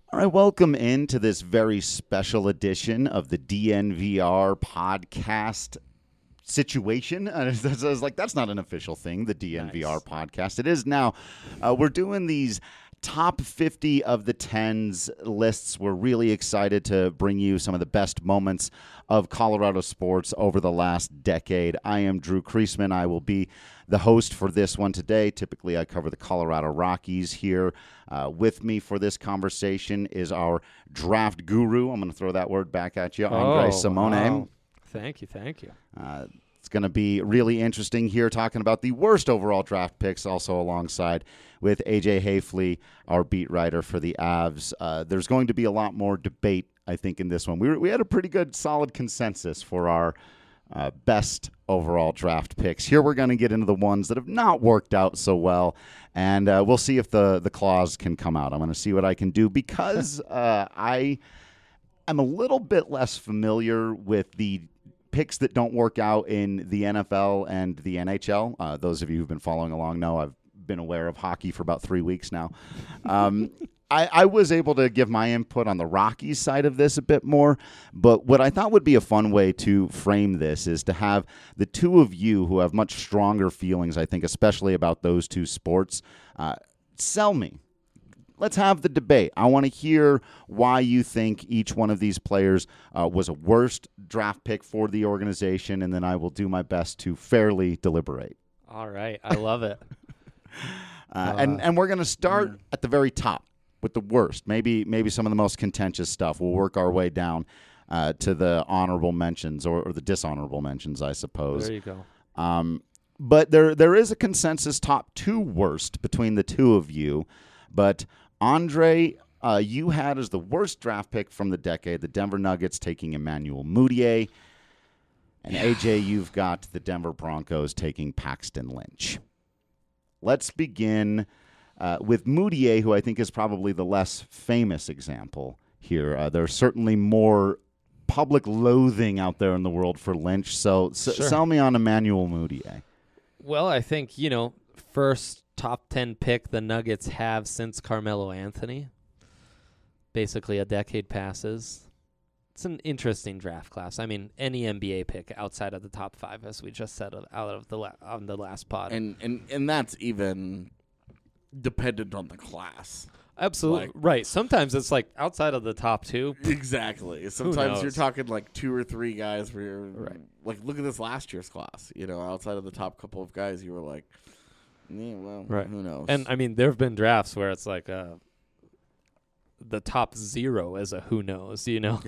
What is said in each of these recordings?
All right, welcome into this very special edition of the DNVR podcast situation. I was like, that's not an official thing, the DNVR podcast. It is now. We're doing these top 50 of the 10s lists. We're really excited to bring you some of the best moments of Colorado sports over the last decade. I am Drew Kreisman. I will be the host for this one today. Typically, I cover the Colorado Rockies here. With me for this conversation is our draft guru. I'm going to throw that word back at you, Andre Simone. Wow. Thank you. It's going to be really interesting here talking about the worst overall draft picks, also alongside with AJ Hayfley, our beat writer for the Avs. There's going to be a lot more debate, I think, in this one. We had a pretty good, solid consensus for our best overall draft picks. Here we're going to get into the ones that have not worked out so well, and we'll see if the claws can come out. I'm going to see what I can do because I am a little bit less familiar with the picks that don't work out in the NFL and the NHL. Those of you who've been following along know I've been aware of hockey for about 3 weeks now. I was able to give my input on the Rockies side of this a bit more, but what I thought would be a fun way to frame this is to have the two of you who have much stronger feelings, I think, especially about those two sports, sell me. Let's have the debate. I want to hear why you think each one of these players was a worst draft pick for the organization, and then I will do my best to fairly deliberate. All right. I love it. And we're going to start at the very top with the worst, maybe some of the most contentious stuff. We'll work our way down to the honorable mentions or the dishonorable mentions, I suppose. There you go. But there is a consensus top two worst between the two of you. But Andre, you had as the worst draft pick from the decade the Denver Nuggets taking Emmanuel Mudiay. And AJ, you've got the Denver Broncos taking Paxton Lynch. Let's begin with Mudiay, who I think is probably the less famous example here. There's certainly more public loathing out there in the world for Lynch. So sell me on Emmanuel Mudiay. Well, I think, first top 10 pick the Nuggets have since Carmelo Anthony. Basically a decade passes. It's an interesting draft class. I mean, any NBA pick outside of the top 5, as we just said on the last pod. And that's even dependent on the class. Absolutely. Right. Sometimes it's like outside of the top 2. Exactly. Sometimes you're talking like 2 or 3 guys where you're like, look at this last year's class. Outside of the top couple of guys, you were like, yeah, well, who knows? And I mean, there have been drafts where it's like the top 0 is a who knows,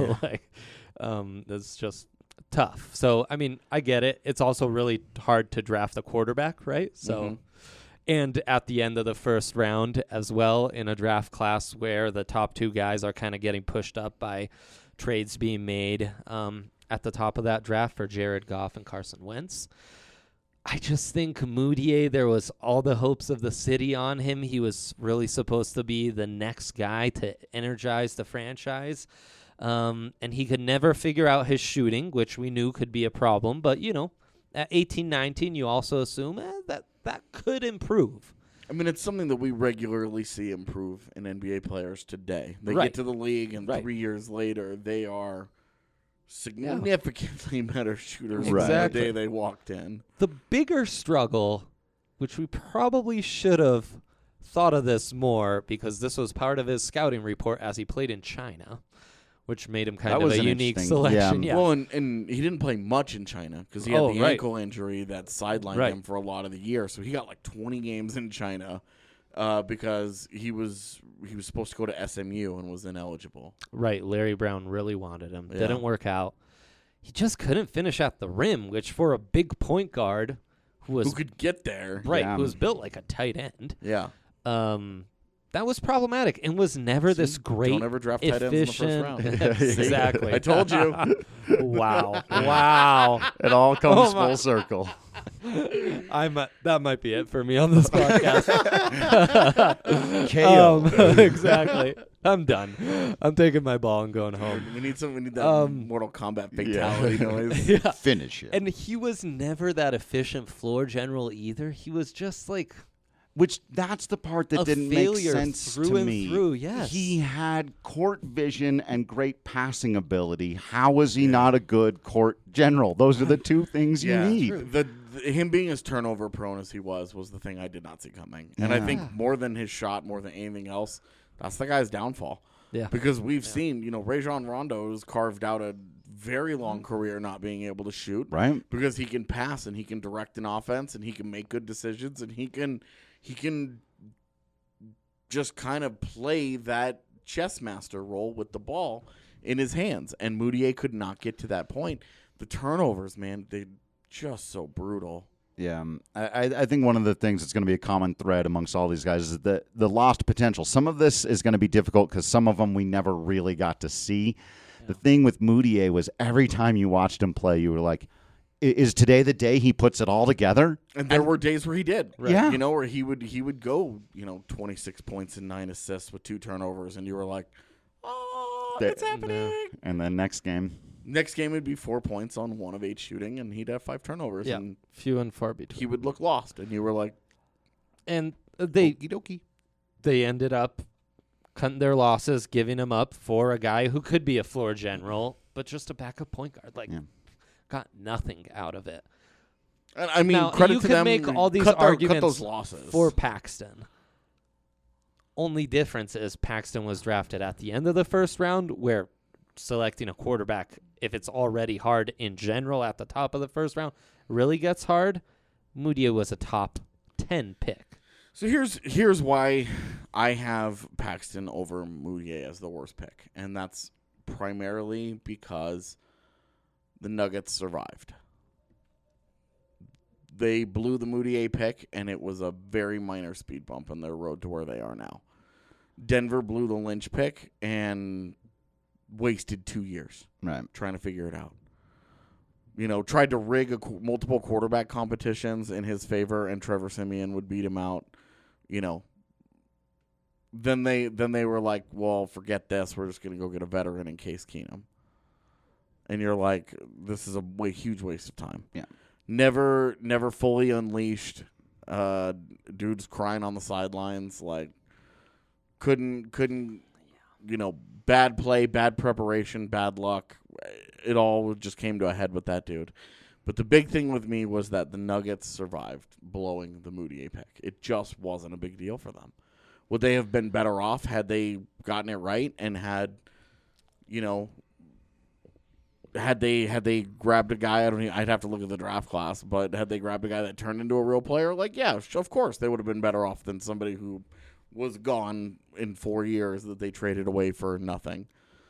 it's just tough. So, I mean, I get it. It's also really hard to draft a quarterback, right? So, and at the end of the first round as well in a draft class where the top 2 guys are kind of getting pushed up by trades being made at the top of that draft for Jared Goff and Carson Wentz. I just think Mudiay, there was all the hopes of the city on him. He was really supposed to be the next guy to energize the franchise. And he could never figure out his shooting, which we knew could be a problem. But, at 18, 19, you also assume that could improve. I mean, it's something that we regularly see improve in NBA players today. They get to the league, and 3 years later, they are significantly better shooters than the day they walked in. The bigger struggle, which we probably should have thought of this more because this was part of his scouting report as he played in China, which made him kind of a unique selection. Yeah. Well, and he didn't play much in China because he had the ankle injury that sidelined him for a lot of the year. So he got like 20 games in China because he was supposed to go to SMU and was ineligible. Right. Larry Brown really wanted him. Didn't work out. He just couldn't finish at the rim, which for a big point guard who could get there, who was built like a tight end. Yeah. That was problematic and was never this great, don't ever draft tight ends in the first round. Exactly. I told you. Wow. It all comes full circle. That might be it for me on this podcast. KO. Exactly. I'm done. I'm taking my ball and going home. We need that Mortal Kombat fatality noise. Finish it. And he was never that efficient floor general either. He was just like Which that's the part that didn't make sense through to and me. Through, yes. He had court vision and great passing ability. How was he not a good court general? Those are the two things you need. Him being as turnover prone as he was the thing I did not see coming. And I think more than his shot, more than anything else, that's the guy's downfall. Yeah. Because we've seen, Rajon Rondo has carved out a very long career not being able to shoot. Right. Because he can pass and he can direct an offense and he can make good decisions and he can just kind of play that chess master role with the ball in his hands. And Mudiay could not get to that point. The turnovers, man, they're just so brutal. Yeah, I think one of the things that's going to be a common thread amongst all these guys is the lost potential. Some of this is going to be difficult because some of them we never really got to see. Yeah. The thing with Mudiay was every time you watched him play, you were like, is today the day he puts it all together? And there were days where he did. Right? Yeah. Where he would go, 26 points and 9 assists with 2 turnovers, and you were like, oh, it's happening. And then next game would be 4 points on 1 of 8 shooting, and he'd have 5 turnovers. Yeah, and few and far between. He would look lost, and you were like, and they okie dokie. They ended up cutting their losses, giving him up for a guy who could be a floor general, but just a backup point guard. Got nothing out of it. And I mean, now, credit you to can them. Make all these cut arguments those losses for Paxton. Only difference is Paxton was drafted at the end of the first round, where selecting a quarterback, if it's already hard in general at the top of the first round, really gets hard. Mudiay was a top 10 pick. So here's why I have Paxton over Mudiay as the worst pick, and that's primarily because the Nuggets survived. They blew the Mudiay pick, and it was a very minor speed bump on their road to where they are now. Denver blew the Lynch pick and wasted 2 years trying to figure it out. Tried to rig multiple quarterback competitions in his favor, and Trevor Siemian would beat him out. Then they were like, well, forget this. We're just going to go get a veteran in Case Keenum. And you're like, this is a huge waste of time. Yeah. Never fully unleashed. Dude's crying on the sidelines. Like, couldn't, bad play, bad preparation, bad luck. It all just came to a head with that dude. But the big thing with me was that the Nuggets survived blowing the Mudiay pick. It just wasn't a big deal for them. Would they have been better off had they gotten it right and had they grabbed a guy? I'd have to look at the draft class, but had they grabbed a guy that turned into a real player, of course they would have been better off than somebody who was gone in 4 years that they traded away for nothing.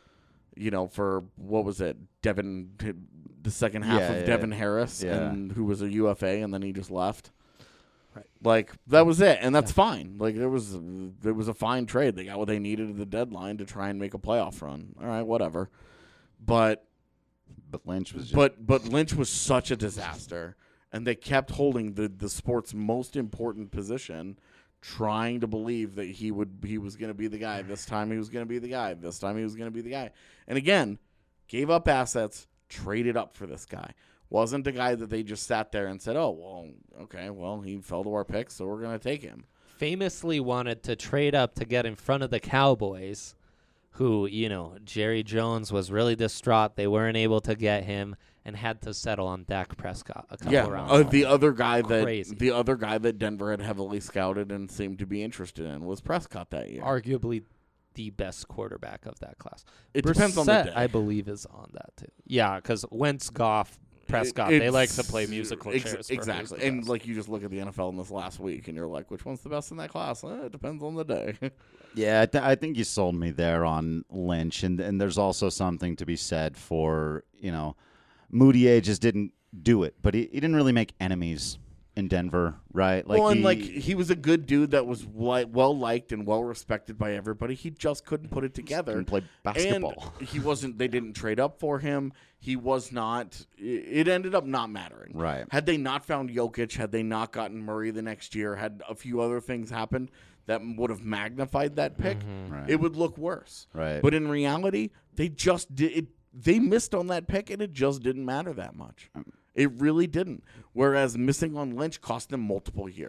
For what was it, Devin, the second half of Devin Harris, and who was a UFA, and then he just left. Right. That was it, and that's fine. It was a fine trade. They got what they needed at the deadline to try and make a playoff run. All right, whatever. But Lynch was but Lynch was such a disaster, and they kept holding the sport's most important position, trying to believe that he was going to be the guy. This time he was going to be the guy. This time he was going to be the guy. And again, gave up assets, traded up for this guy. Wasn't a guy that they just sat there and said, oh, well, okay, well, he fell to our pick, so we're going to take him. Famously wanted to trade up to get in front of the Cowboys, who, Jerry Jones was really distraught. They weren't able to get him and had to settle on Dak Prescott a couple rounds. The other guy that Denver had heavily scouted and seemed to be interested in was Prescott that year. Arguably the best quarterback of that class. It depends on the day. I believe, is on that too. Yeah, because Wentz, Goff, Prescott, they like to play musical chairs. Exactly. And you just look at the NFL in this last week, and you're like, which one's the best in that class? It depends on the day. Yeah, I think you sold me there on Lynch, and there's also something to be said for, Mudiay just didn't do it, but he didn't really make enemies in Denver, right? He was a good dude that was well liked and well respected by everybody. He just couldn't put it together. Couldn't play basketball. And he wasn't. They didn't trade up for him. He was not. It ended up not mattering. Right. Had they not found Jokic, had they not gotten Murray the next year, had a few other things happened that would have magnified that pick, it would look worse. Right. But in reality, they just did it. They missed on that pick, and it just didn't matter that much. It really didn't. Whereas missing on Lynch cost them multiple years.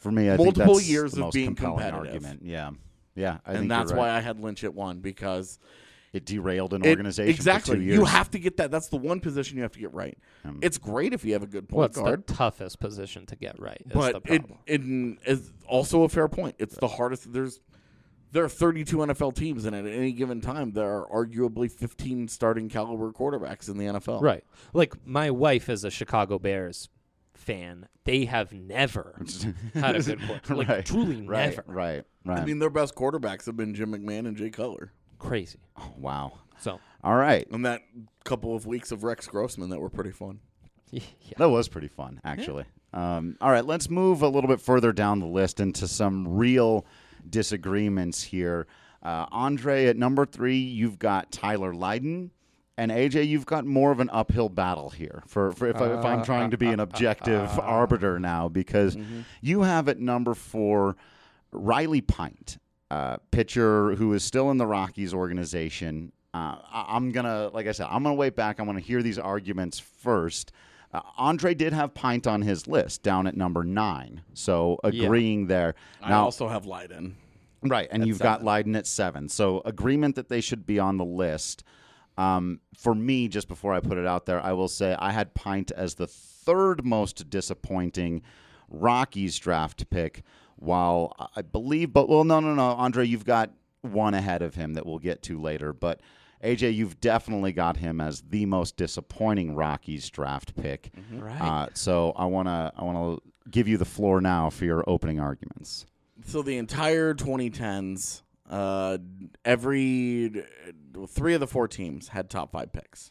For me, I multiple think that's years the of most being compelling competitive. argument. Yeah, I think and that's you're right. why I had Lynch at 1 because It derailed an organization exactly. for 2 years. You have to get that. That's the one position you have to get right. It's great if you have a good point What's guard. the toughest position to get right? Is But the problem. it is also a fair point. It's the hardest. There are 32 NFL teams, and at any given time, there are arguably 15 starting caliber quarterbacks in the NFL. Right. Like, my wife is a Chicago Bears fan. They have never had a good quarterback. Like, truly never. Right. I mean, their best quarterbacks have been Jim McMahon and Jay Cutler. Crazy. Oh, wow. So, All right. And that couple of weeks of Rex Grossman that were pretty fun. yeah. That was pretty fun, actually. All right, let's move a little bit further down the list into some real disagreements here. Andre, at number 3, you've got Tyler Lydon. And AJ, you've got more of an uphill battle here if I'm trying to be an objective arbiter now, because you have at number 4 Riley Pint, pitcher who is still in the Rockies organization. I'm gonna wait back. I'm gonna hear these arguments first. Andre did have Pint on his list down at number 9, so agreeing there. I Now, also have Lydon. right, and you've got Lydon at 7, so agreement that they should be on the list. For me, just before I put it out there, I will say I had Pint as the 3rd most disappointing Rockies draft pick, while I believe, no, Andre, you've got one ahead of him that we'll get to later, but AJ, you've definitely got him as the most disappointing Rockies draft pick. Right. So I want to give you the floor now for your opening arguments. So the entire 2010s, every 3 of the 4 teams had top 5 picks.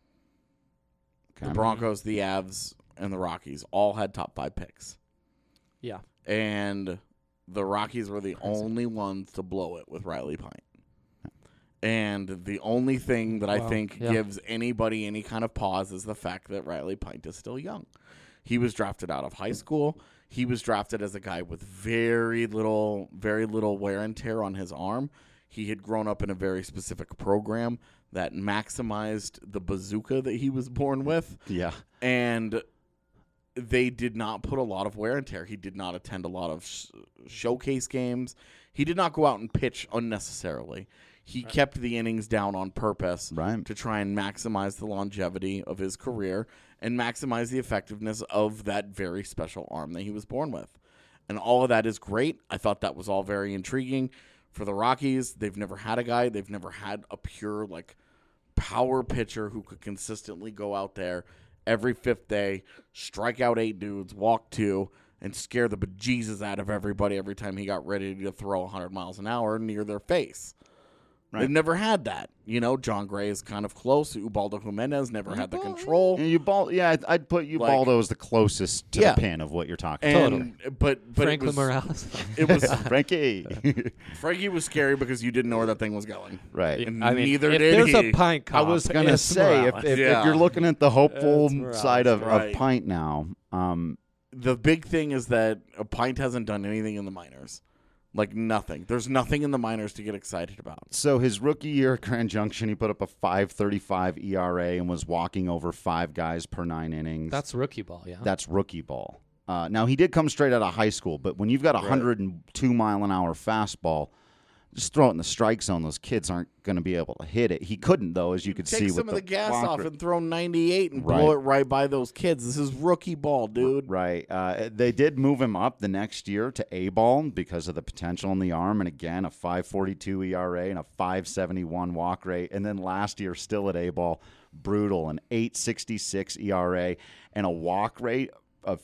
Okay. The Broncos, the Avs, and the Rockies all had top 5 picks. Yeah. And the Rockies were the only ones to blow it with Riley Pint. And the only thing that I think gives anybody any kind of pause is the fact that Riley Pint is still young. He was drafted out of high school. He was drafted as a guy with very little wear and tear on his arm. He had grown up in a very specific program that maximized the bazooka that he was born with. Yeah. And they did not put a lot of wear and tear. He did not attend a lot of showcase games. He did not go out and pitch unnecessarily. He kept the innings down on purpose to try and maximize the longevity of his career and maximize the effectiveness of that very special arm that he was born with. And all of that is great. I thought that was all very intriguing. For the Rockies, they've never had a guy. They've never had a pure, power pitcher who could consistently go out there every 5th day, strike out 8 dudes, walk 2, and scare the bejesus out of everybody every time he got ready to throw 100 miles an hour near their face. Right. They've never had that. John Gray is kind of close. Ubaldo Jimenez never had the control. I'd put Ubaldo as the closest to the pin of what you're talking about. Totally. But Franklin Morales. It was Frankie. Frankie was scary because you didn't know where that thing was going. Right. And I mean, neither if did there's he. a Pint cop, I was going to say, if you're looking at the hopeful side of Pint now. The big thing is that a Pint hasn't done anything in the minors. Nothing. There's nothing in the minors to get excited about. So his rookie year at Grand Junction, he put up a 5.35 ERA and was walking over 5 guys per 9 innings. That's rookie ball, yeah. That's rookie ball. Now, he did come straight out of high school, but when you've got a 102-mile-an-hour fastball, just throw it in the strike zone. Those kids aren't going to be able to hit it. He couldn't, though, as you could see. Take some with of the gas off rate. and throw 98 and blow it right by those kids. This is rookie ball, dude. Right. They did move him up the next year to A-ball because of the potential in the arm. And again, a 5.42 ERA and a 5.71 walk rate. And then last year, still at A-ball, brutal, an 8.66 ERA and a walk rate of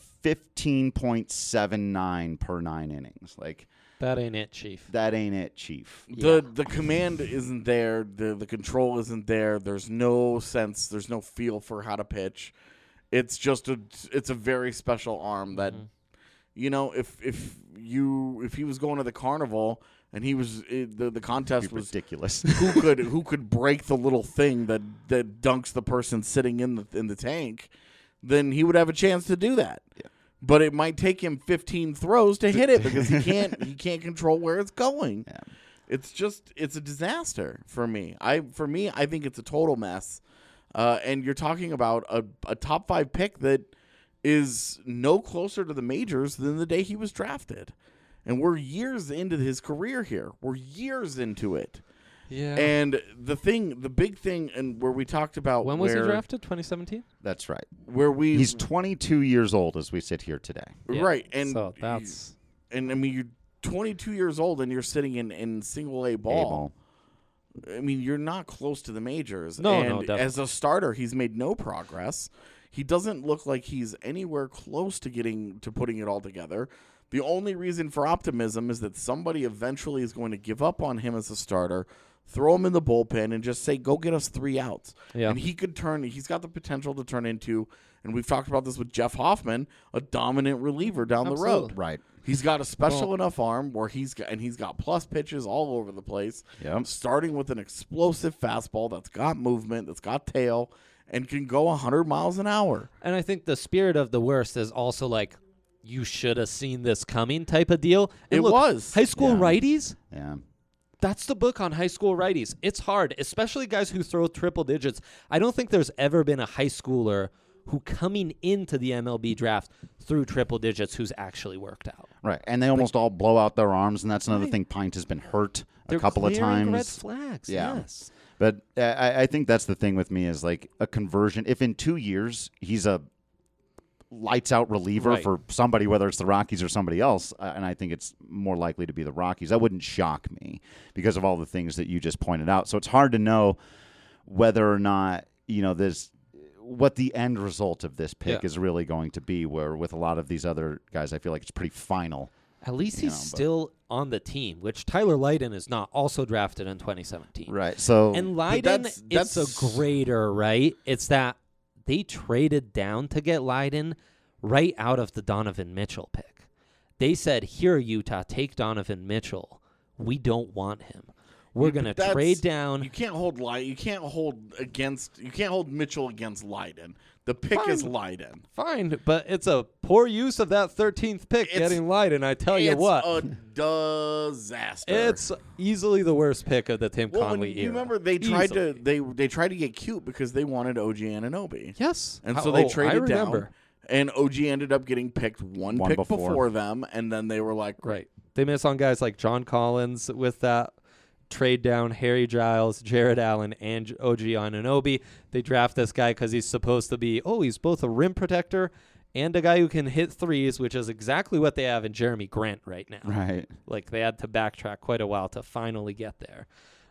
15.79 per 9 innings. That ain't it, Chief. That ain't it, Chief. The command isn't there. The control isn't there. There's no sense. There's no feel for how to pitch. It's just it's a very special arm that, if he was going to the carnival and he was the contest was ridiculous. who could break the little thing that dunks the person sitting in the tank, then he would have a chance to do that. Yeah. But it might take him 15 throws to hit it because he can't control where it's going. Yeah. It's a disaster for me. I think it's a total mess. And you're talking about a top 5 pick that is no closer to the majors than the day he was drafted. And we're years into his career here. We're years into it. Yeah. And the big thing, and where we talked about when was he drafted? 2017. That's right. He's 22 years old as we sit here today. Yeah. Right, and so that's and I mean you're 22 years old and you're sitting in single A ball. I mean you're not close to the majors. No, and definitely. As a starter, he's made no progress. He doesn't look like he's anywhere close to putting it all together. The only reason for optimism is that somebody eventually is going to give up on him as a starter, throw him in the bullpen, and just say, go get us 3 outs. Yeah. And he's got the potential to turn into, and we've talked about this with Jeff Hoffman, a dominant reliever down the road. Right. He's got a special enough arm where he's got plus pitches all over the place. Yep. Starting with an explosive fastball that's got movement, that's got tail, and can go 100 miles an hour. And I think the spirit of the worst is also like, you should have seen this coming type of deal. And It look, was. high school righties. Yeah. That's the book on high school righties. It's hard, especially guys who throw triple digits. I don't think there's ever been a high schooler who coming into the MLB draft threw triple digits who's actually worked out. Right. And they almost all blow out their arms, and that's another thing. Pint has been hurt a couple of times. Red flags, Yeah. yes. But I think that's the thing with me is like a conversion. If in 2 years he's a lights-out reliever for somebody, whether it's the Rockies or somebody else, and I think it's more likely to be the Rockies, that wouldn't shock me because of all the things that you just pointed out. So it's hard to know whether or not, what the end result of this pick is really going to be, where with a lot of these other guys, I feel like it's pretty final. At least he's still on the team, which Tyler Lydon is not, also drafted in 2017. Right. So and Lydon, it's a grader, right? It's that they traded down to get Lydon right out of the Donovan Mitchell pick. They said, here, Utah, take Donovan Mitchell. We don't want him. We're going to trade down. You can't hold Mitchell against Lydon. The pick is Lydon. Fine, but it's a poor use of that 13th pick getting Lydon, I tell you what. It's a disaster. It's easily the worst pick of the Tim Conley era. You remember they tried to get cute because they wanted OG Anunoby. Yes. And so they traded down. And OG ended up getting picked one pick before them, and then they were like, right. They miss on guys like John Collins with that trade down, Harry Giles, Jared Allen, and OG Anunoby. They draft this guy because he's supposed to be, he's both a rim protector and a guy who can hit threes, which is exactly what they have in Jeremy Grant right now. Right. Like they had to backtrack quite a while to finally get there.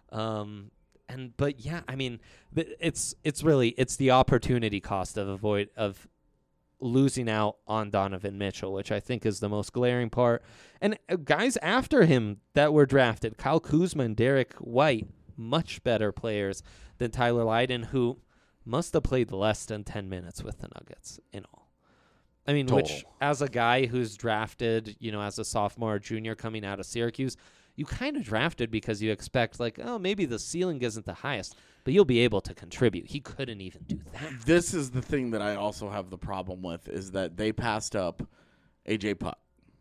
But yeah, I mean, it's the opportunity cost of losing out on Donovan Mitchell, which I think is the most glaring part. And guys after him that were drafted, Kyle Kuzma and Derek White, much better players than Tyler Lydon, who must have played less than 10 minutes with the Nuggets in all. I mean, which as a guy who's drafted, as a sophomore or junior coming out of Syracuse, you kind of drafted because you expect maybe the ceiling isn't the highest, but you'll be able to contribute. He couldn't even do that. This is the thing that I also have the problem with, is that they passed up AJ Putt,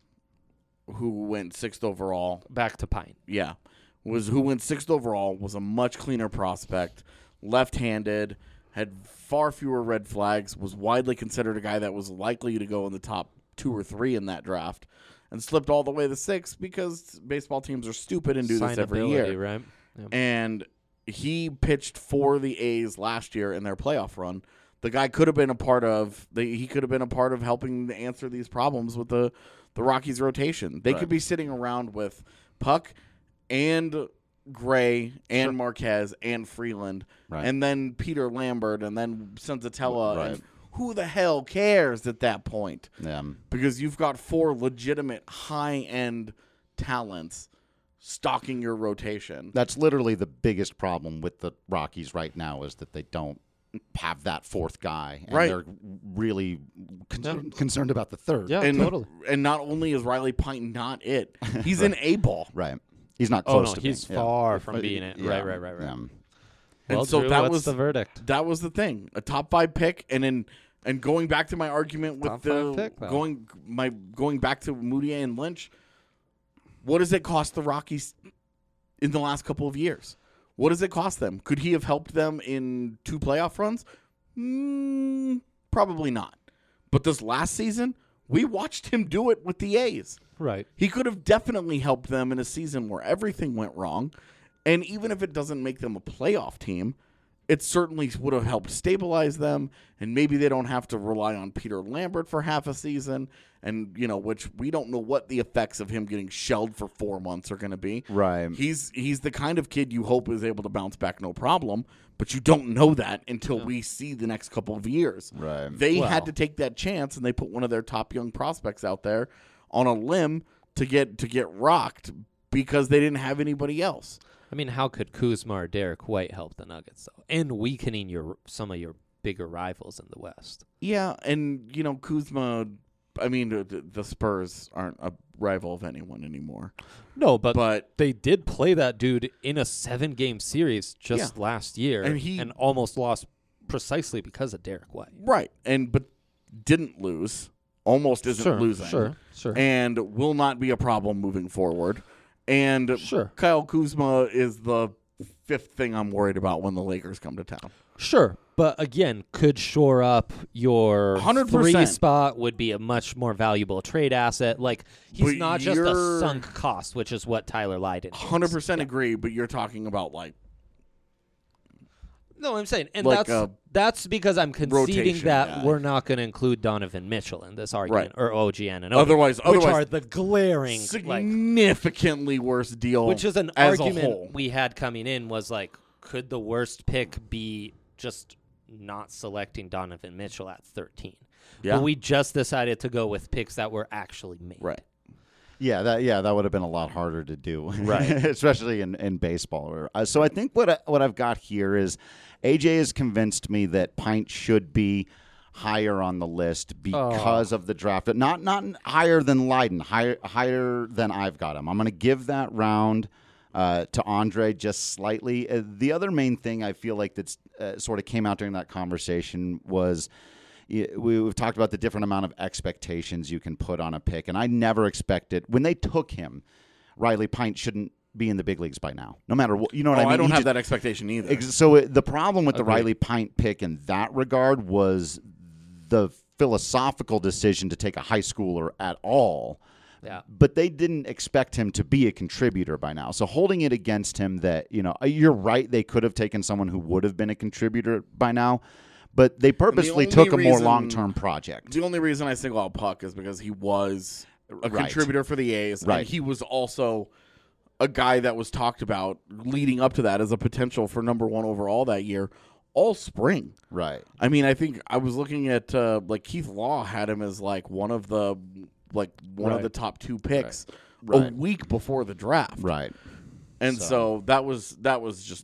who went 6th overall. Back to Pine. Yeah. Who went 6th overall, was a much cleaner prospect, left-handed, had far fewer red flags, was widely considered a guy that was likely to go in the top 2 or 3 in that draft, and slipped all the way to 6th because baseball teams are stupid and do this every year. Right? Yep. And he pitched for the A's last year in their playoff run. The guy could have been a part of helping to answer these problems with the Rockies rotation. They could be sitting around with Puck and Gray and Marquez and Freeland, and then Peter Lambert and then Senzatella. And who the hell cares at that point? Yeah. Because you've got 4 legitimate high-end talents stocking your rotation. That's literally the biggest problem with the Rockies right now, is that they don't have that 4th guy. And they're really concerned about the 3rd. Yeah, totally. And not only is Riley Pint not it, he's an A-ball. Right. He's not close to he's being. far from being it. Yeah. Right. Yeah. Well, and so Drew, that what's was the verdict. That was the thing. A top 5 pick, and going back to my argument with Top 5 pick, going back to Moutier and Lynch, what does it cost the Rockies in the last couple of years? What does it cost them? Could he have helped them in 2 playoff runs? Probably not. But this last season, we watched him do it with the A's. Right. He could have definitely helped them in a season where everything went wrong. And even if it doesn't make them a playoff team, it certainly would have helped stabilize them. And maybe they don't have to rely on Peter Lambert for half a season. And, which we don't know what the effects of him getting shelled for 4 months are going to be. Right. He's the kind of kid you hope is able to bounce back no problem. But you don't know that until we see the next couple of years. Right. They had to take that chance, and they put one of their top young prospects out there on a limb to get rocked because they didn't have anybody else. I mean, how could Kuzma or Derek White help the Nuggets, though? And weakening some of your bigger rivals in the West. Yeah, and, Kuzma, I mean, the Spurs aren't a rival of anyone anymore. No, but they did play that dude in a 7-game series just last year and almost lost precisely because of Derek White. Right, but didn't lose. Almost isn't losing. Sure. And will not be a problem moving forward. And Kyle Kuzma is the 5th thing I'm worried about when the Lakers come to town. Sure, but again, could shore up your 100%. 3 spot, would be a much more valuable trade asset. Like, he's not just a sunk cost, which is what Tyler Lydon is. 100% agree, but you're talking about, like... No, I'm saying, and like that's because I'm conceding that guy. we're not going to include Donovan Mitchell in this argument, right. or OG Anunoby, otherwise, which are the glaring, significantly worse deal. Which is an as argument a whole. we had coming in was like, could the worst pick be just not selecting Donovan Mitchell at 13? Yeah. But we just decided to go with picks that were actually made. Right. Yeah, that would have been a lot harder to do, right? Especially in baseball. So I think what I've got here is AJ has convinced me that Pint should be higher on the list because of the draft. Not higher than Lydon, higher than I've got him. I'm going to give that round to Andre just slightly. The other main thing I feel like that's sort of came out during that conversation was. We've talked about the different amount of expectations you can put on a pick, and I never expected when they took him, Riley Pint shouldn't be in the big leagues by now, no matter what. You know what I mean? I don't have that expectation either. So the problem with the Riley Pint pick in that regard was the philosophical decision to take a high schooler at all. Yeah. But they didn't expect him to be a contributor by now. So holding it against him that, you're right, they could have taken someone who would have been a contributor by now. But they purposely took a more long-term project. The only reason I single out Puck is because he was a contributor for the A's. Right. And he was also a guy that was talked about leading up to that as a potential for number 1 overall that year all spring. Right. I mean, I think I was looking at Keith Law had him as one of the of the top 2 picks a week before the draft. Right. And so that was just.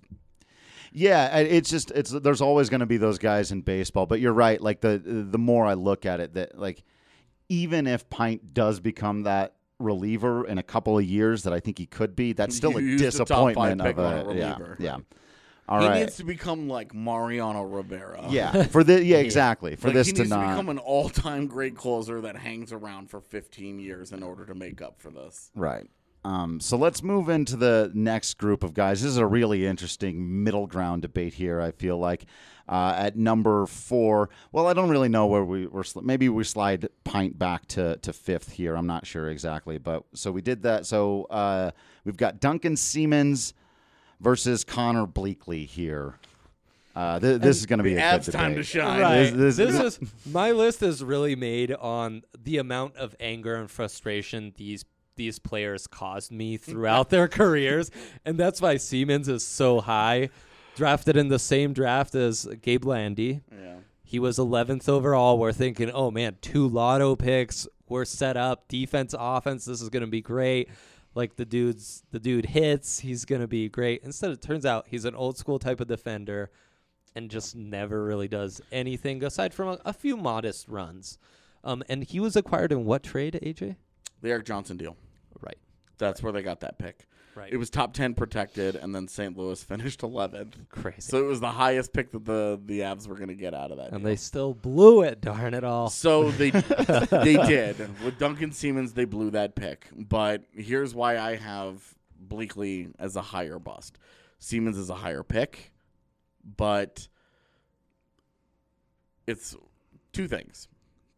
Yeah, there's always going to be those guys in baseball, but you're right. Like the more I look at it, that like even if Pint does become that reliever in a couple of years, that I think he could be, that's still a disappointment of a reliever. Yeah. All right. He needs to become like Mariano Rivera. Yeah. Exactly. For this he to needs not to become an all-time great closer that hangs around for 15 years in order to make up for this. Right. So let's move into the next group of guys. This is a really interesting middle ground debate here, I feel like. At number 4, well, I don't really know where we're. Maybe we slide Pint back to 5th here. I'm not sure exactly. But so we did that. So we've got Duncan Siemens versus Connor Bleakley here. This is going to be a good debate. Time to shine. Right. This is my list is really made on the amount of anger and frustration these players caused me throughout their careers, and that's why Siemens is so high. Drafted in the same draft as Gabe Landy. Yeah. He was 11th overall. We're thinking, oh, man, 2 lotto picks. We're set up. Defense, offense, this is going to be great. Like, the dude hits. He's going to be great. Instead, it turns out he's an old-school type of defender and just never really does anything aside from a few modest runs. And he was acquired in what trade, AJ? The Eric Johnson deal. Right. That's where they got that pick. Right. It was top 10 protected, and then St. Louis finished 11th. Crazy. So it was the highest pick that the Avs were going to get out of that. And deal. they still blew it, darn it all. So they did. With Duncan Siemens, they blew that pick. But here's why I have Bleakley as a higher bust. Siemens is a higher pick, but it's 2 things.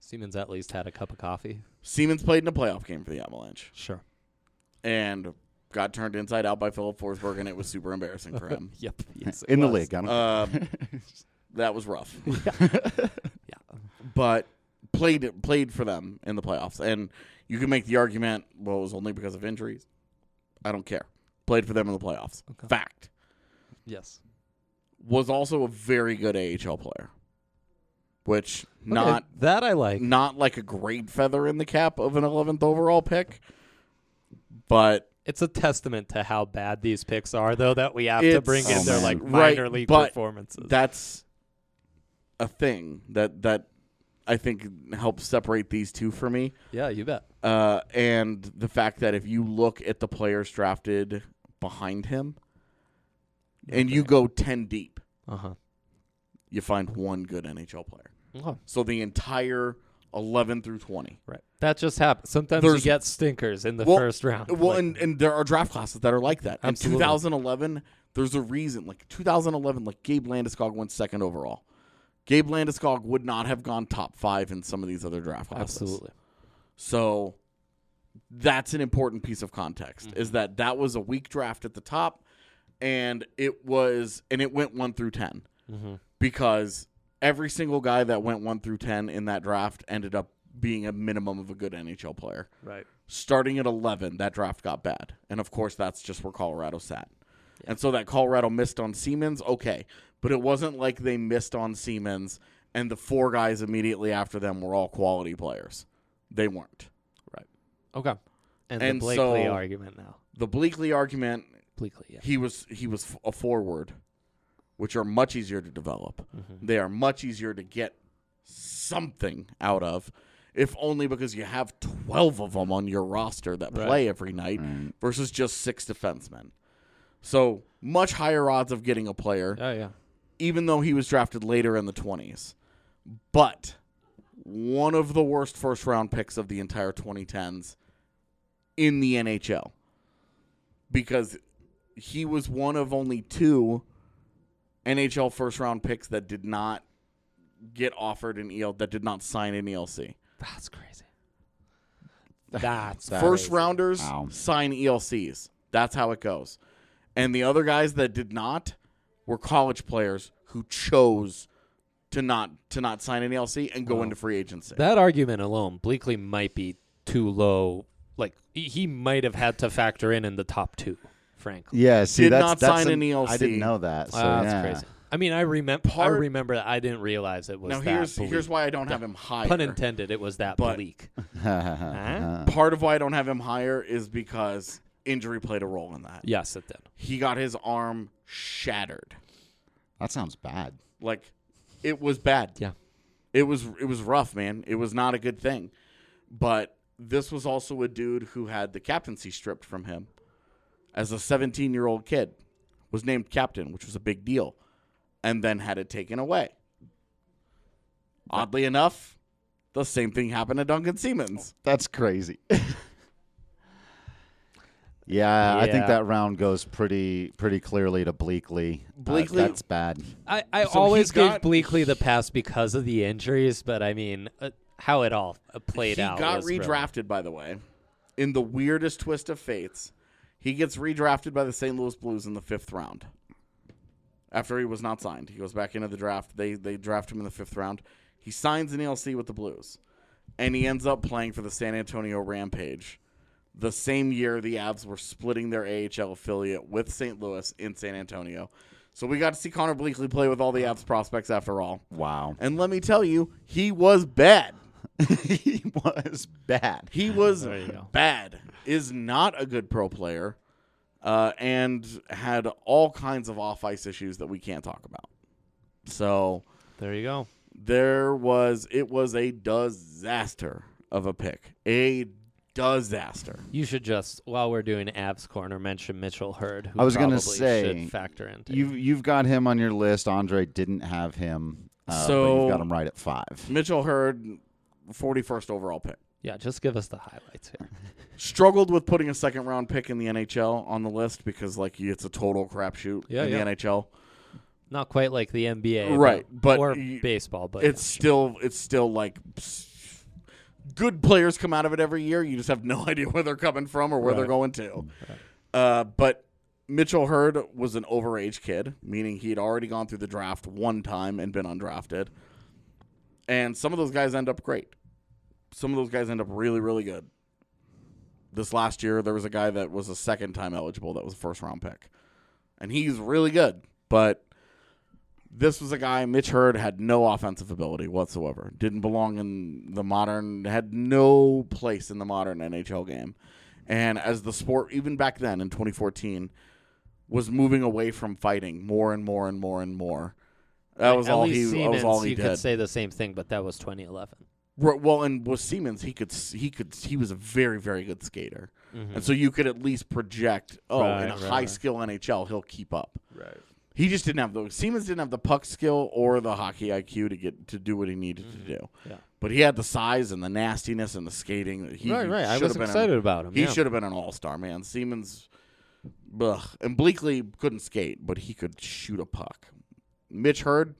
Siemens at least had a cup of coffee. Siemens played in a playoff game for the Avalanche. Sure. And got turned inside out by Philip Forsberg, and it was super embarrassing for him. Yep. Yes, in the league. That was rough. Yeah. But played for them in the playoffs. And you can make the argument, well, it was only because of injuries. I don't care. Played for them in the playoffs. Okay. Fact. Yes. Was also a very good AHL player. Which not that I like. Not like a great feather in the cap of an 11th overall pick. But it's a testament to how bad these picks are, though, that we have to bring in their minor league performances. That's a thing that I think helps separate these two for me. Yeah, you bet. And the fact that if you look at the players drafted behind him, and you go 10 deep, you find one good NHL player. So the entire 11 through 20. Right. That just happens. Sometimes you get stinkers in the first round. Well, and there are draft classes that are like that. Absolutely. In 2011, there's a reason. Like 2011, like Gabe Landeskog went second overall. Gabe Landeskog would not have gone top 5 in some of these other draft classes. Absolutely. So that's an important piece of context, is that was a weak draft at the top, and it went 1 through 10 because every single guy that went 1 through 10 in that draft ended up being a minimum of a good NHL player. Right. Starting at 11, that draft got bad. And, of course, that's just where Colorado sat. Yeah. And so that Colorado missed on Siemens, okay. But it wasn't like they missed on Siemens and the 4 guys immediately after them were all quality players. They weren't. Right. Okay. And the Blakely argument now. The Blakely argument, yeah. he was a forward, which are much easier to develop. They are much easier to get something out of, if only because you have 12 of them on your roster that play every night versus just 6 defensemen. So much higher odds of getting a player. Oh, yeah. Even though he was drafted later in the 20s. But one of the worst first-round picks of the entire 2010s in the NHL. Because he was one of only 2 NHL first-round picks that did not get offered an that did not sign an ELC. That's crazy. That's first-rounders sign ELCs. That's how it goes. And the other guys that did not were college players who chose to not sign an ELC and go into free agency. That argument alone, Blakely might be too low. Like, he might have had to factor in the top 2, frankly. Yeah, see, did not sign an ELC. I didn't know that. So that's crazy. I mean, I remember that. I didn't realize it was now that here's why I don't have him higher. Pun intended, it was that bleak. Part of why I don't have him higher is because injury played a role in that. Yes, it did. He got his arm shattered. That sounds bad. Like, it was bad. Yeah. It was rough, man. It was not a good thing. But this was also a dude who had the captaincy stripped from him as a 17-year-old kid. Was named captain, which was a big deal, and then had it taken away. Oddly enough, the same thing happened to Duncan Siemens. That's crazy. Yeah, I think that round goes pretty clearly to Blakely. That's bad. I always gave Blakely the pass because of the injuries, but I mean, how it all played out. He got redrafted, by the way, in the weirdest twist of fates. He gets redrafted by the St. Louis Blues in the 5th round. After he was not signed. He goes back into the draft. They draft him in the 5th round. He signs an ELC with the Blues. And he ends up playing for the San Antonio Rampage. The same year the Avs were splitting their AHL affiliate with St. Louis in San Antonio. So we got to see Connor Blakely play with all the Avs prospects after all. Wow. And let me tell you, he was bad. He was bad. He was bad. Is not a good pro player, and had all kinds of off-ice issues that we can't talk about. So there you go. It was a disaster of a pick. A disaster. You should just, while we're doing Avs Corner, mention Mitchell Hurd, who I was going to say, should factor into. You've got him on your list. Andre didn't have him, but you've got him right at 5. Mitchell Hurd, 41st overall pick. Yeah, just give us the highlights here. Struggled with putting a second-round pick in the NHL on the list because, it's a total crapshoot in the NHL. Not quite like the NBA, right? or baseball, but it's still like good players come out of it every year. You just have no idea where they're coming from or where they're going to. But Mitchell Hurd was an overage kid, meaning he had already gone through the draft one time and been undrafted. And some of those guys end up great. Some of those guys end up really, really good. This last year, there was a guy that was a second-time eligible that was a first-round pick. And he's really good. But this was a guy, Mitch Hurd, had no offensive ability whatsoever. Didn't belong in the modern, had no place in the modern NHL game. And as the sport, even back then in 2014, was moving away from fighting more and more and more and more. That was all he did. You could say the same thing, but that was 2011. Well, and with Siemens, he was a very, very good skater. Mm-hmm. And so you could at least project, in a high-skill NHL, he'll keep up. Right. He just didn't have Siemens didn't have the puck skill or the hockey IQ to do what he needed to do. Yeah. But he had the size and the nastiness and the skating. Right. I was excited about him. He should have been an all-star, man. Siemens, and Bleakley couldn't skate, but he could shoot a puck. Mitch Hurd,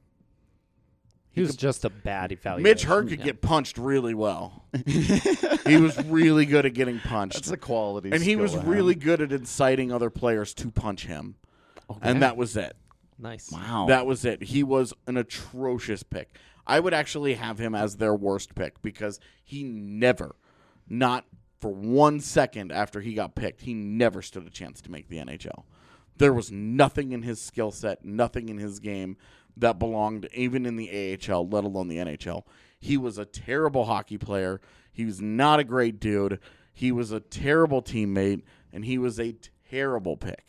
he was just a bad evaluation. Mitch Hurd could get punched really well. He was really good at getting punched. That's a quality. And he was really good at inciting other players to punch him. Okay. And that was it. Nice. Wow. That was it. He was an atrocious pick. I would actually have him as their worst pick because he never, not for 1 second after he got picked, he never stood a chance to make the NHL. There was nothing in his skill set, nothing in his game that belonged even in the AHL, let alone the NHL. He was a terrible hockey player. He was not a great dude. He was a terrible teammate, and he was a terrible pick.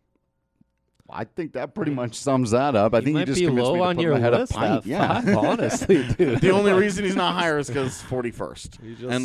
I think that pretty much sums that up. I think you just be convinced low me to on put your him ahead list. of Pint. Yeah, honestly, dude. The only reason he's not higher is because 41st, and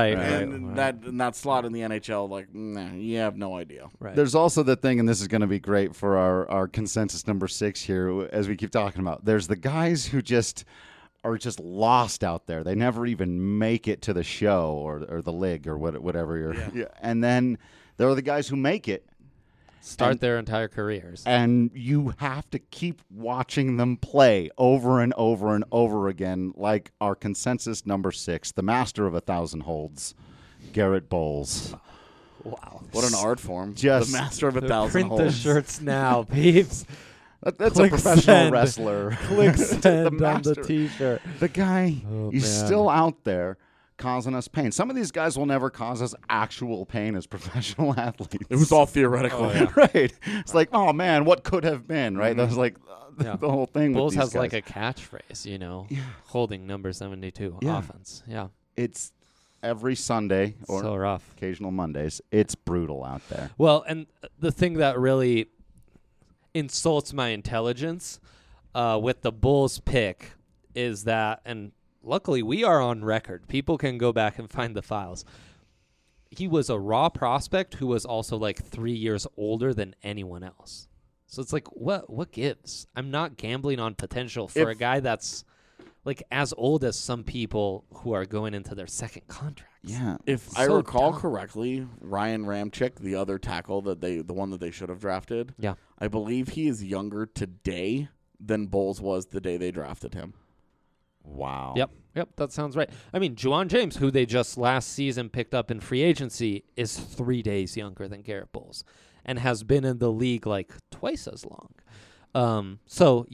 that slot in the NHL, you have no idea. Right. There's also the thing, and this is going to be great for our consensus number 6 here, as we keep talking about. There's the guys who are just lost out there. They never even make it to the show or the league or whatever. And then there are the guys who make it. Start their entire careers. And you have to keep watching them play over and over and over again, like our consensus number 6, the master of 1,000 holds, Garrett Bowles. Wow. What an art form. Just the master of 1,000 holds. Print the shirts now, peeps. That's a professional wrestler. Click send on the T-shirt. The guy, he's still out there causing us pain. Some of these guys will never cause us actual pain as professional athletes. It was all theoretical. Right. It's like, oh, man, what could have been, right? Mm-hmm. That was like the whole thing Bulls with these has guys. Like a catchphrase, holding number 72 offense. Yeah. It's every Sunday or so rough. Occasional Mondays. It's brutal out there. Well, and the thing that really insults my intelligence with the Bulls pick is that, and luckily, we are on record. People can go back and find the files. He was a raw prospect who was also like 3 years older than anyone else. So it's like, what gives? I'm not gambling on potential for a guy that's like as old as some people who are going into their second contract. Yeah. If I recall correctly, Ryan Ramczyk, the other tackle the one that they should have drafted, I believe he is younger today than Bowles was the day they drafted him. Wow. Yep, that sounds right. I mean, Juwan James, who they just last season picked up in free agency, is 3 days younger than Garrett Bowles and has been in the league like twice as long. So,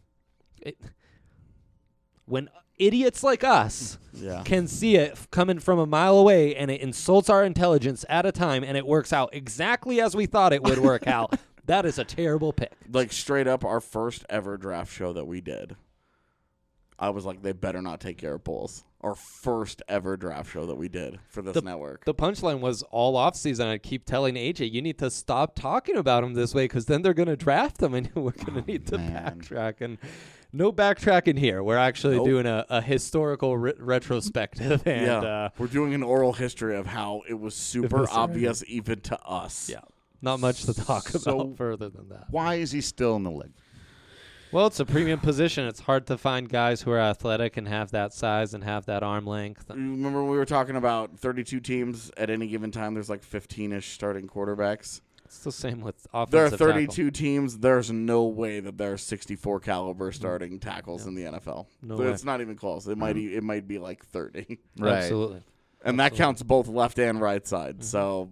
when idiots like us can see it coming from a mile away and it insults our intelligence at a time and it works out exactly as we thought it would work out, that is a terrible pick. Like straight up our first ever draft show that we did. I was like, they better not take Garrett Bowles. Our first ever draft show that we did for this network. The punchline was all offseason. I'd keep telling AJ, you need to stop talking about him this way because then they're going to draft him and we're going to need to backtrack. And no backtracking here. We're actually doing a historical retrospective. And we're doing an oral history of how it was super obvious even to us. Yeah. Not much to talk about further than that. Why is he still in the league? Well, it's a premium position. It's hard to find guys who are athletic and have that size and have that arm length. Remember we were talking about 32 teams at any given time. There's like 15-ish starting quarterbacks. It's the same with offensive There are tackle. 32 teams. There's no way that there are 64 caliber starting tackles in the NFL. No So way. it's not even close. It might be like 30. Right. Absolutely. And that counts both left and right side. Mm-hmm. So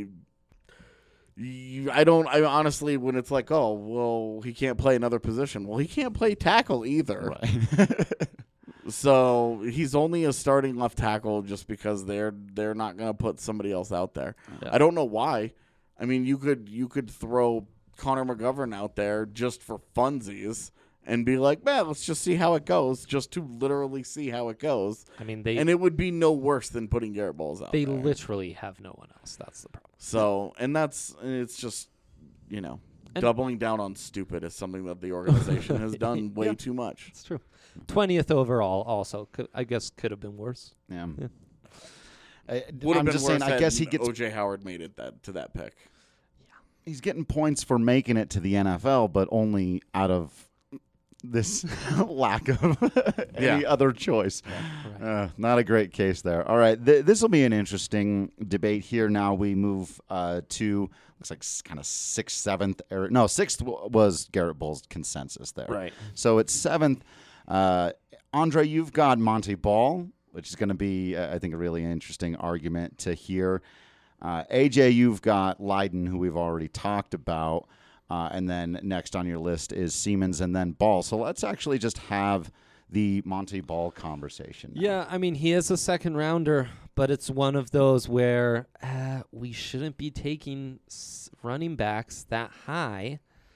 I honestly, when it's like, oh, well, he can't play another position. Well, he can't play tackle either. Right. So he's only a starting left tackle just because they're not going to put somebody else out there. Yeah. I don't know why. I mean, you could throw Connor McGovern out there just for funsies and be like, man, let's just see how it goes, just to literally see how it goes. I mean, And it would be no worse than putting Garrett Bowles out they there. literally have no one else. That's the problem. So, and it's just, And- doubling down on stupid is something that the organization has done way too much. It's true. 20th overall also, I guess, could have been worse. Yeah. Yeah. Would have I'm been just worse saying, I had guess he gets O.J. Howard made it to that pick. he's getting points for making it to the NFL, but only out of this lack of any other choice. Right. Not a great case there. All right, this will be an interesting debate here. Now we move to looks like kind of sixth, seventh. Sixth was Garrett Bowles' consensus there. Right. So it's seventh. Andre, you've got Monty Ball, which is going to be, I think, a really interesting argument to hear. AJ, you've got Leiden, who we've already talked about. And then next on your list is Siemens and then Ball. So let's actually just have the Monty Ball conversation now. Yeah, I mean, he is a second rounder, but it's one of those where we shouldn't be taking running backs that high.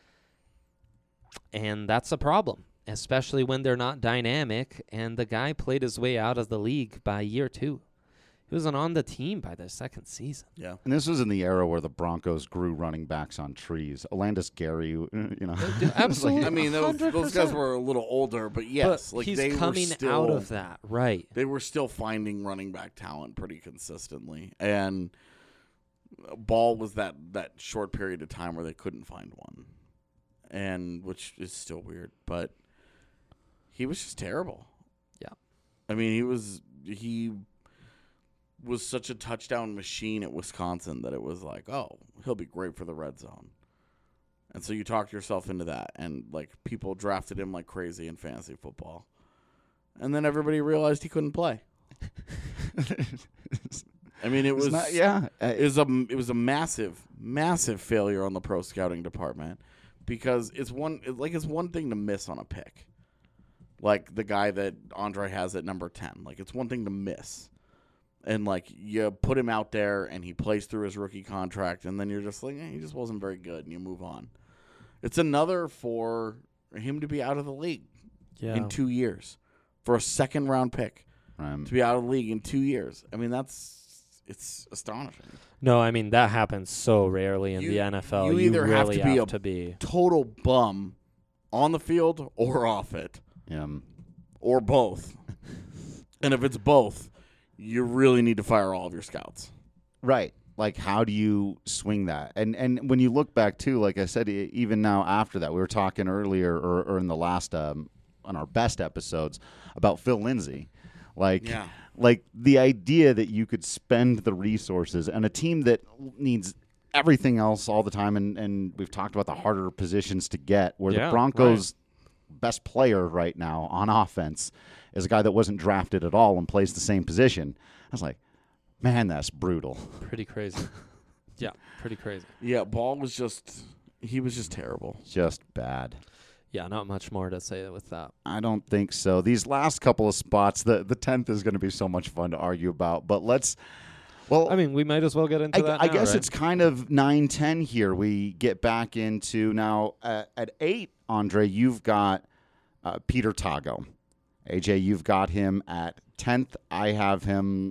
And that's a problem, especially when they're not dynamic. And the guy played his way out of the league by year 2. He wasn't on the team by the second season. Yeah. And this was in the era where the Broncos grew running backs on trees. Alandis Gary, Absolutely. I mean, those guys were a little older, but yes, but like he's they coming were still, out of that, right? They were still finding running back talent pretty consistently, and Ball was that short period of time where they couldn't find one, and which is still weird, but he was just terrible. Yeah. I mean, he was such a touchdown machine at Wisconsin that it was like, oh, he'll be great for the red zone. And so you talked yourself into that, and like people drafted him like crazy in fantasy football. And then everybody realized he couldn't play. I mean, it was it was a massive failure on the pro scouting department, because it's one thing to miss on a pick. Like the guy that Andre has at number 10. Like, it's one thing to miss. And, like, you put him out there, and he plays through his rookie contract, and then you're just like, he just wasn't very good, and you move on. It's another for him to be out of the league in 2 years. For a second-round pick to be out of the league in 2 years. I mean, it's astonishing. No, I mean, that happens so rarely in the NFL. You either really have to be total bum on the field or off it. Or both. And if it's both, you really need to fire all of your scouts. Right. Like, how do you swing that? And when you look back, too, like I said, even now after that, we were talking earlier or in the last, on our best episodes, about Phil Lindsay. Like the idea that you could spend the resources and a team that needs everything else all the time, and we've talked about the harder positions to get, where the Broncos' best player right now on offense is a guy that wasn't drafted at all and plays the same position. I was like, man, that's brutal. Pretty crazy. Yeah, pretty crazy. Yeah, Ball was just terrible. Just bad. Yeah, not much more to say with that. I don't think so. These last couple of spots, the 10th is going to be so much fun to argue about. But I mean, we might as well get into that I now, guess right? it's kind of 9-10 here. We get back into now at 8, Andre, you've got Peter Tago. AJ, you've got him at 10th. I have him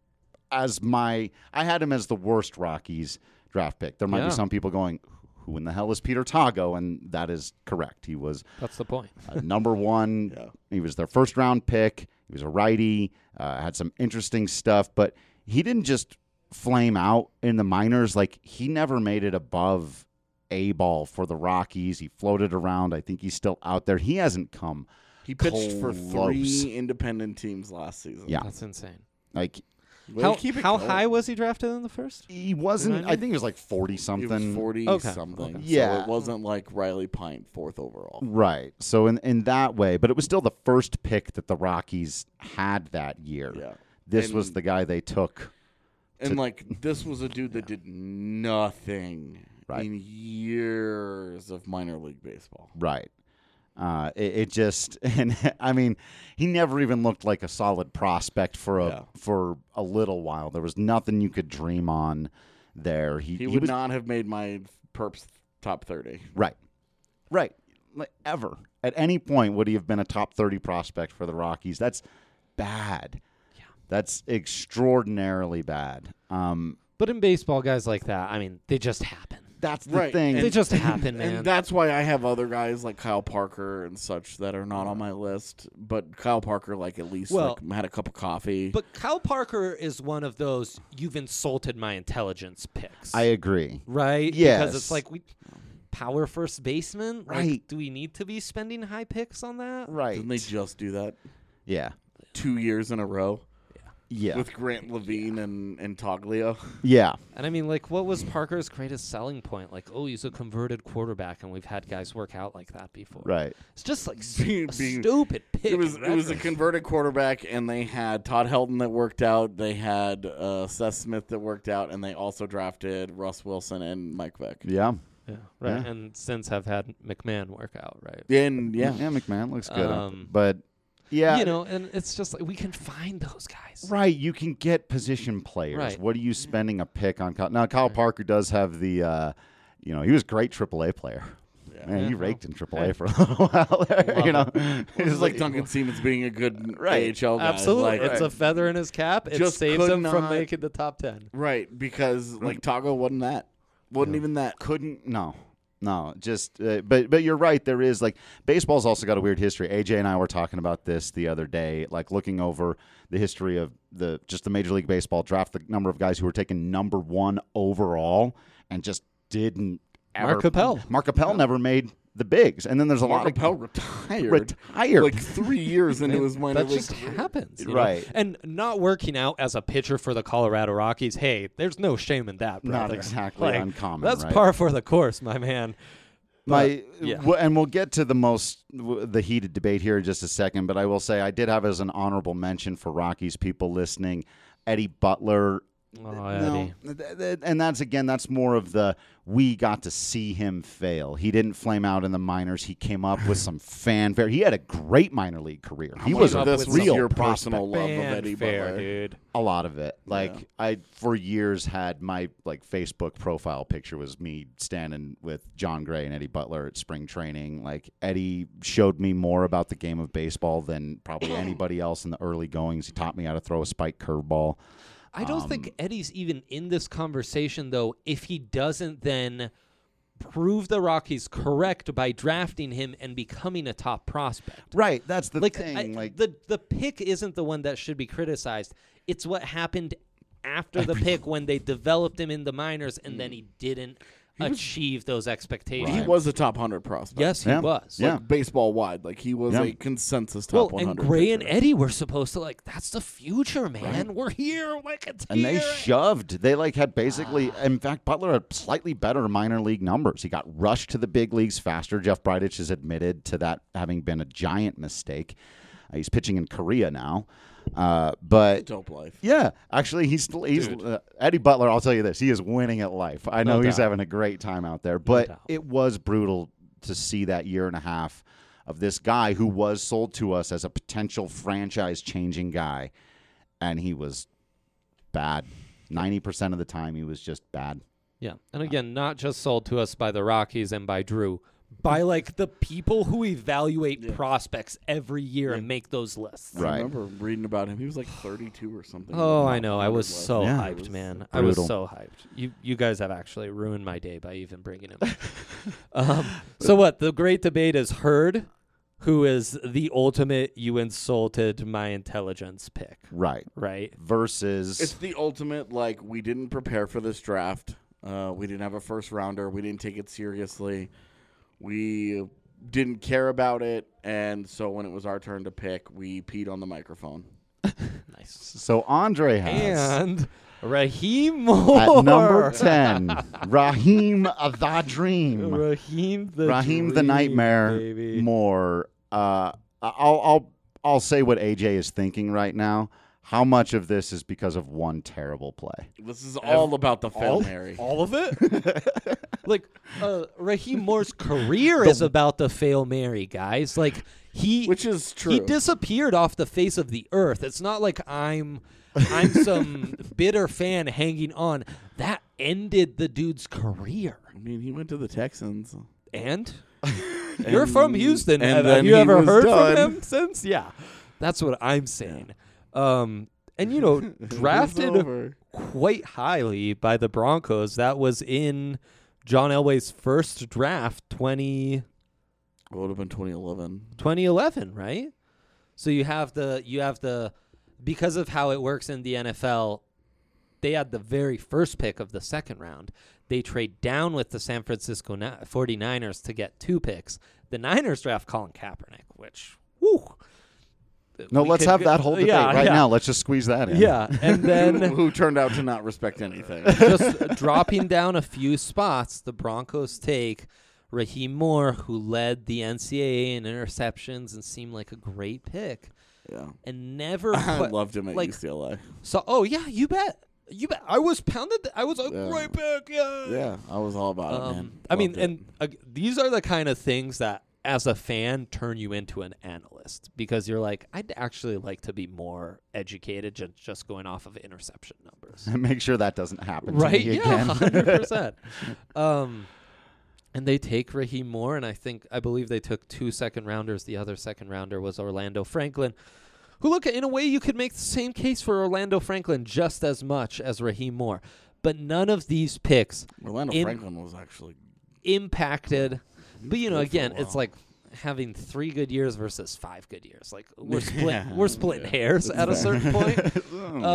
I had him as the worst Rockies draft pick. There might be some people going, who in the hell is Peter Tago? And that is correct. He was That's the point. number 1. Yeah. He was their first round pick. He was a righty, had some interesting stuff, but he didn't just flame out in the minors. Like, he never made it above A ball for the Rockies. He floated around. I think he's still out there. He hasn't come. He pitched for 3 independent teams last season. Yeah. That's insane. Like, How high was he drafted in the first? He wasn't. I think he was like 40-something. 40-something. Okay. Yeah. So it wasn't like Riley Pint, 4th overall. Right. So in that way, but it was still the first pick that the Rockies had that year. Yeah. This was the guy they took. And this was a dude that did nothing in years of minor league baseball. Right. It just, and I mean, he never even looked like a solid prospect for a little while. There was nothing you could dream on there. He would not have made my Perps top 30. Right. Like, ever. At any point would he have been a top 30 prospect for the Rockies. That's bad. Yeah. That's extraordinarily bad. But in baseball, guys like that, I mean, they just happen. That's the thing. They just happen, man. And that's why I have other guys like Kyle Parker and such that are not on my list. But Kyle Parker, at least had a cup of coffee. But Kyle Parker is one of those you've insulted my intelligence picks. I agree. Right? Yes. Because it's like power first baseman? Right. Like, do we need to be spending high picks on that? Right. Didn't they just do that? Yeah. 2 years in a row? Yeah. With Grant Levine and Toglia. Yeah. And I mean, what was Parker's greatest selling point? He's a converted quarterback, and we've had guys work out like that before. Right. It's just stupid pick. It was a converted quarterback, and they had Todd Helton that worked out. They had Seth Smith that worked out, and they also drafted Russ Wilson and Mike Vick. Yeah. Yeah. Right. Yeah. And since have had McMahon work out, right? And yeah, McMahon looks good. But yeah, and it's just we can find those guys. Right, you can get position players. Right. What are you spending a pick on? Now, Kyle Parker does have the, he was a great AAA player. Yeah. Man, he raked in AAA for a little while there. It's like Duncan Siemens being a good AHL guy. Absolutely. It's a feather in his cap. It just saves him from making the top 10. Right, because Tago wasn't that. Wasn't even that. No, just but you're right. There is baseball's also got a weird history. AJ and I were talking about this the other day, looking over the history of the Major League Baseball draft, the number of guys who were taken number 1 overall and just didn't ever. Mark Appel never made the bigs, and then there's a lot of Appel retired 3 years into his minor league. That just happens, right? And not working out as a pitcher for the Colorado Rockies. Hey, there's no shame in that, brother. Not exactly uncommon. That's right? par for the course, my man. And we'll get to the heated debate here in just a second. But I will say I did have as an honorable mention for Rockies people listening, Eddie Butler. Oh, Eddie. And that's more of we got to see him fail. He didn't flame out in the minors. He came up with some fanfare. He had a great minor league career. He was a real your prospect. Personal love of Eddie Butler, dude. A lot of it. I for years had my Facebook profile picture was me standing with John Gray and Eddie Butler at spring training. Eddie showed me more about the game of baseball than probably anybody else in the early goings. He taught me how to throw a spike curveball. I don't think Eddie's even in this conversation, though, if he doesn't then prove the Rockies correct by drafting him and becoming a top prospect. Right, that's the thing. The pick isn't the one that should be criticized. It's what happened after the pick when they developed him in the minors and then he didn't achieve those expectations. He was a top 100 prospect. Yes, he was. Baseball wide. He was a consensus top 100. And Gray and Eddie were supposed to that's the future, man. Right. We're here. It's and here. They shoved. They had basically, in fact, Butler had slightly better minor league numbers. He got rushed to the big leagues faster. Jeff Bridich has admitted to that having been a giant mistake. He's pitching in Korea now. But dope life. Yeah, actually, he's Eddie Butler. I'll tell you this: he is winning at life. I know he's having a great time out there. But it was brutal to see that year and a half of this guy who was sold to us as a potential franchise-changing guy, and he was bad. 90% of the time, he was just bad. Yeah, and again, not just sold to us by the Rockies and by Drew. By the people who evaluate prospects every year and make those lists. Right. I remember reading about him. He was 32 or something. Oh, I know. I was so hyped, man. I was so hyped. You guys have actually ruined my day by even bringing him. So what? The great debate is Hurd, who is the ultimate you insulted my intelligence pick. Right. Versus. It's the ultimate, we didn't prepare for this draft. We didn't have a first rounder. We didn't take it seriously. We didn't care about it, and so when it was our turn to pick, we peed on the microphone. Nice. So Andre has And Raheem Moore at number 10, Raheem the Dream, Raheem the Raheem the Dream, Nightmare baby. Moore. I'll say what AJ is thinking right now. How much of this is because of one terrible play? This is all about the Hail Mary. All of it? Like, Raheem Moore's career is about the Hail Mary, guys. Like, which is true. He disappeared off the face of the earth. It's not like I'm some bitter fan hanging on. That ended the dude's career. I mean, he went to the Texans. And? You're from Houston. And Have you ever heard from him since? Yeah. That's what I'm saying. And, drafted quite highly by the Broncos. That was in John Elway's first draft, It would have been 2011. 2011, right? So you have the because of how it works in the NFL, they had the very first pick of the second round. They trade down with the San Francisco 49ers to get 2 picks. The Niners draft Colin Kaepernick, which, whew. No, let's have that whole debate now. Let's just squeeze that in. Yeah, and then who turned out to not respect anything. Just dropping down a few spots, the Broncos take Raheem Moore, who led the NCAA in interceptions and seemed like a great pick. Yeah, and never. I loved him at UCLA. So, you bet. I was pounded. I was like, great pick. Yeah, I was all about it, man. I mean, and these are the kind of things that, as a fan, turn you into an analyst, because you're like, I'd actually like to be more educated just going off of interception numbers. Make sure that doesn't happen to right? me Yeah, again. 100%. And they take Raheem Moore, and I believe they took 2 second-rounders. The other second-rounder was Orlando Franklin, who, look, in a way you could make the same case for Orlando Franklin just as much as Raheem Moore. But none of these picks Orlando Franklin was actually impacted. But, again, it's like having 3 good years versus 5 good years. Like, we're splitting hairs at a certain point.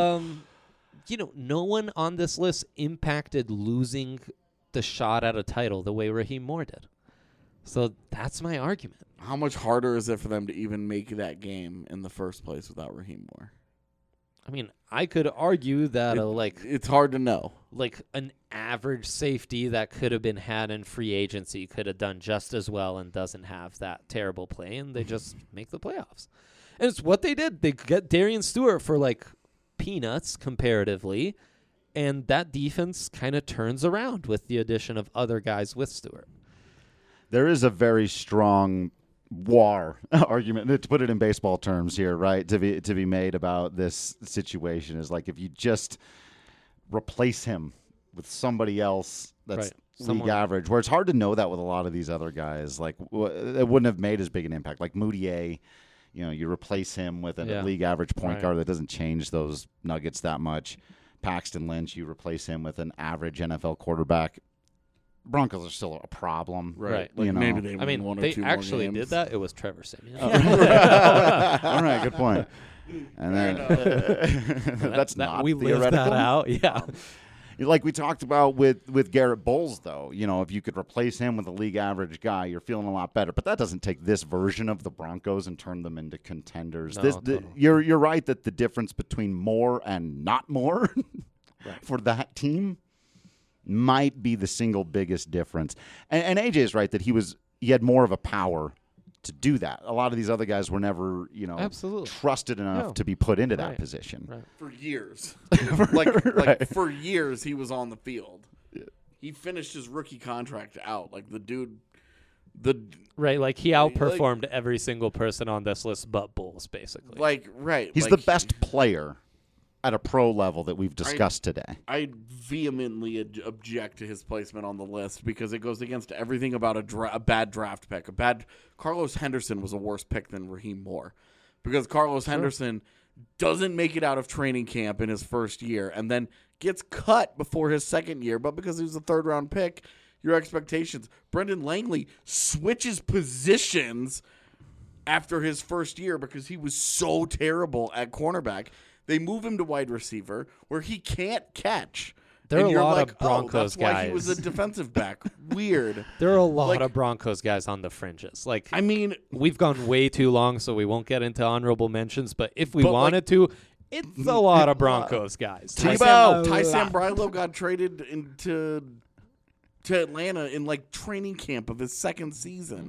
No one on this list impacted losing the shot at a title the way Raheem Moore did. So that's my argument. How much harder is it for them to even make that game in the first place without Raheem Moore? I mean, I could argue that it's hard to know. Like an average safety that could have been had in free agency could have done just as well and doesn't have that terrible play, and they just make the playoffs. And it's what they did. They get Darian Stewart for like peanuts comparatively, and that defense kind of turns around with the addition of other guys with Stewart. There is a very strong war argument, to put it in baseball terms here, right, to be made about this situation, is like if you just replace him with somebody else that's league average, where it's hard to know that with a lot of these other guys. Like, it wouldn't have made as big an impact. Like Moutier, you replace him with a league average point guard that doesn't change those Nuggets that much. Paxton Lynch, you replace him with an average NFL quarterback. Broncos are still a problem, right? Like maybe they win one or they 2 more actually games. did that. It was Trevor Siemian. All right, good point. And then that's not we theoretical. lived that out, yeah. Like we talked about with Garrett Bowles, though, if you could replace him with a league average guy, you're feeling a lot better. But that doesn't take this version of the Broncos and turn them into contenders. No, totally. You're right that the difference between more and not more for that team might be the single biggest difference. And AJ is right that he had more of a power to do that. A lot of these other guys were never, absolutely trusted enough to be put into that position. Right. For years. Right. For years he was on the field. He finished his rookie contract out. Like the dude like he outperformed every single person on this list but Bulls, basically. He's the best player at a pro level that we've discussed today. I vehemently object to his placement on the list because it goes against everything about a bad draft pick. Carlos Henderson was a worse pick than Raheem Moore because Carlos Henderson doesn't make it out of training camp in his first year and then gets cut before his second year, but because he was a third-round pick, your expectations. Brendan Langley switches positions after his first year because he was so terrible at cornerback. They move him to wide receiver where he can't catch. There are a lot of that's Broncos guys. why he was a defensive back. Weird. There are a lot of Broncos guys on the fringes. We've gone way too long, so we won't get into honorable mentions. But if we wanted to, It's a lot of Broncos guys. Ty Sambrailo got traded into Atlanta in like training camp of his second season.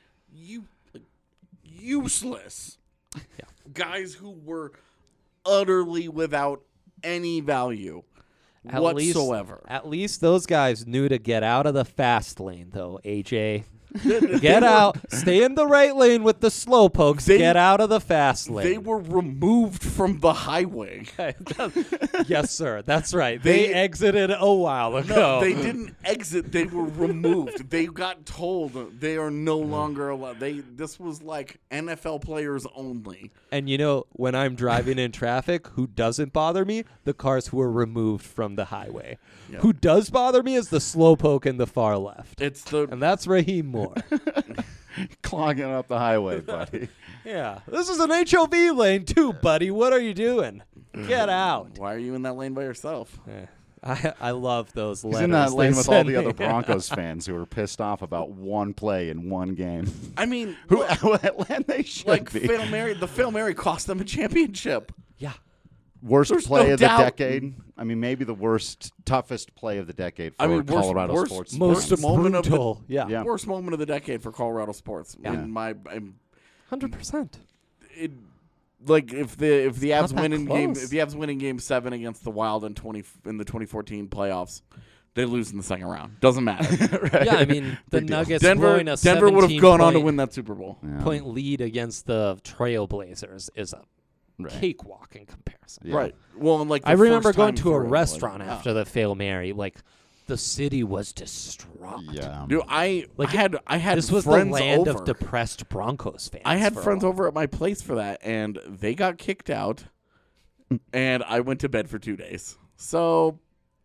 Useless. Yeah. Guys who were utterly without any value whatsoever. At least those guys knew to get out of the fast lane, though, AJ. Get out. Stay in the right lane with the slow pokes. Get out of the fast lane. They were removed from the highway. Yes, sir. That's right. They exited a while ago. No, they didn't exit. They were removed. They got told they are no longer allowed. This was like NFL players only. And when I'm driving in traffic, who doesn't bother me? The cars who are removed from the highway. Yep. Who does bother me is the slowpoke in the far left. And that's Raheem Moore. Clogging up the highway, buddy. Yeah. This is an HOV lane too, buddy. What are you doing? Get out. Why are you in that lane by yourself? I love those letters. He's in that lane with all the other Broncos fans who were pissed off about one play in one game. I mean, they should be. The Fail Mary cost them a championship. Yeah. Worst play of the decade. I mean, maybe the toughest play of the decade for Colorado sports. Worst moment of the decade for Colorado sports. Yeah. 100%. Like if the Avs win in game 7 against the Wild in the 2014 playoffs, they lose in the second round. Doesn't matter. Right? Yeah, I mean the Nuggets Denver would have gone on to win that Super Bowl. Point lead against the Trailblazers is a cakewalk in comparison. Yeah. Right. Well, and I remember going to a restaurant after the Fail Mary. Like the city was distraught. Yeah. Dude, I had this was friends the land over. of depressed Broncos fans. I had friends over at my place for that, and they got kicked out, and I went to bed for 2 days. So,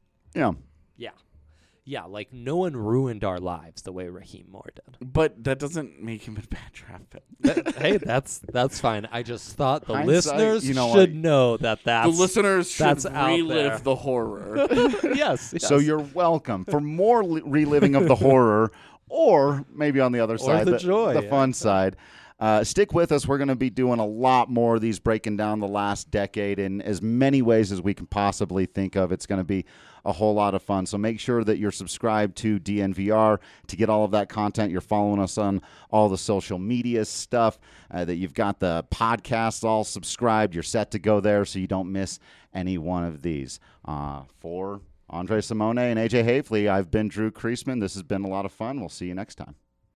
Yeah, like no one ruined our lives the way Raheem Moore did. But that doesn't make him a bad draft pick. Hey, that's fine. I just thought the listeners should know that's the listeners should relive the horror. Yes. So you're welcome for more reliving of the horror, or maybe on the other side, the joy, the fun side. Stick with us. We're going to be doing a lot more of these, breaking down the last decade in as many ways as we can possibly think of. It's going to be a whole lot of fun. So make sure that you're subscribed to DNVR to get all of that content. You're following us on all the social media stuff, that you've got the podcasts all subscribed. You're set to go there so you don't miss any one of these. For Andre Simone and AJ Hafley, I've been Drew Creasman. This has been a lot of fun. We'll see you next time.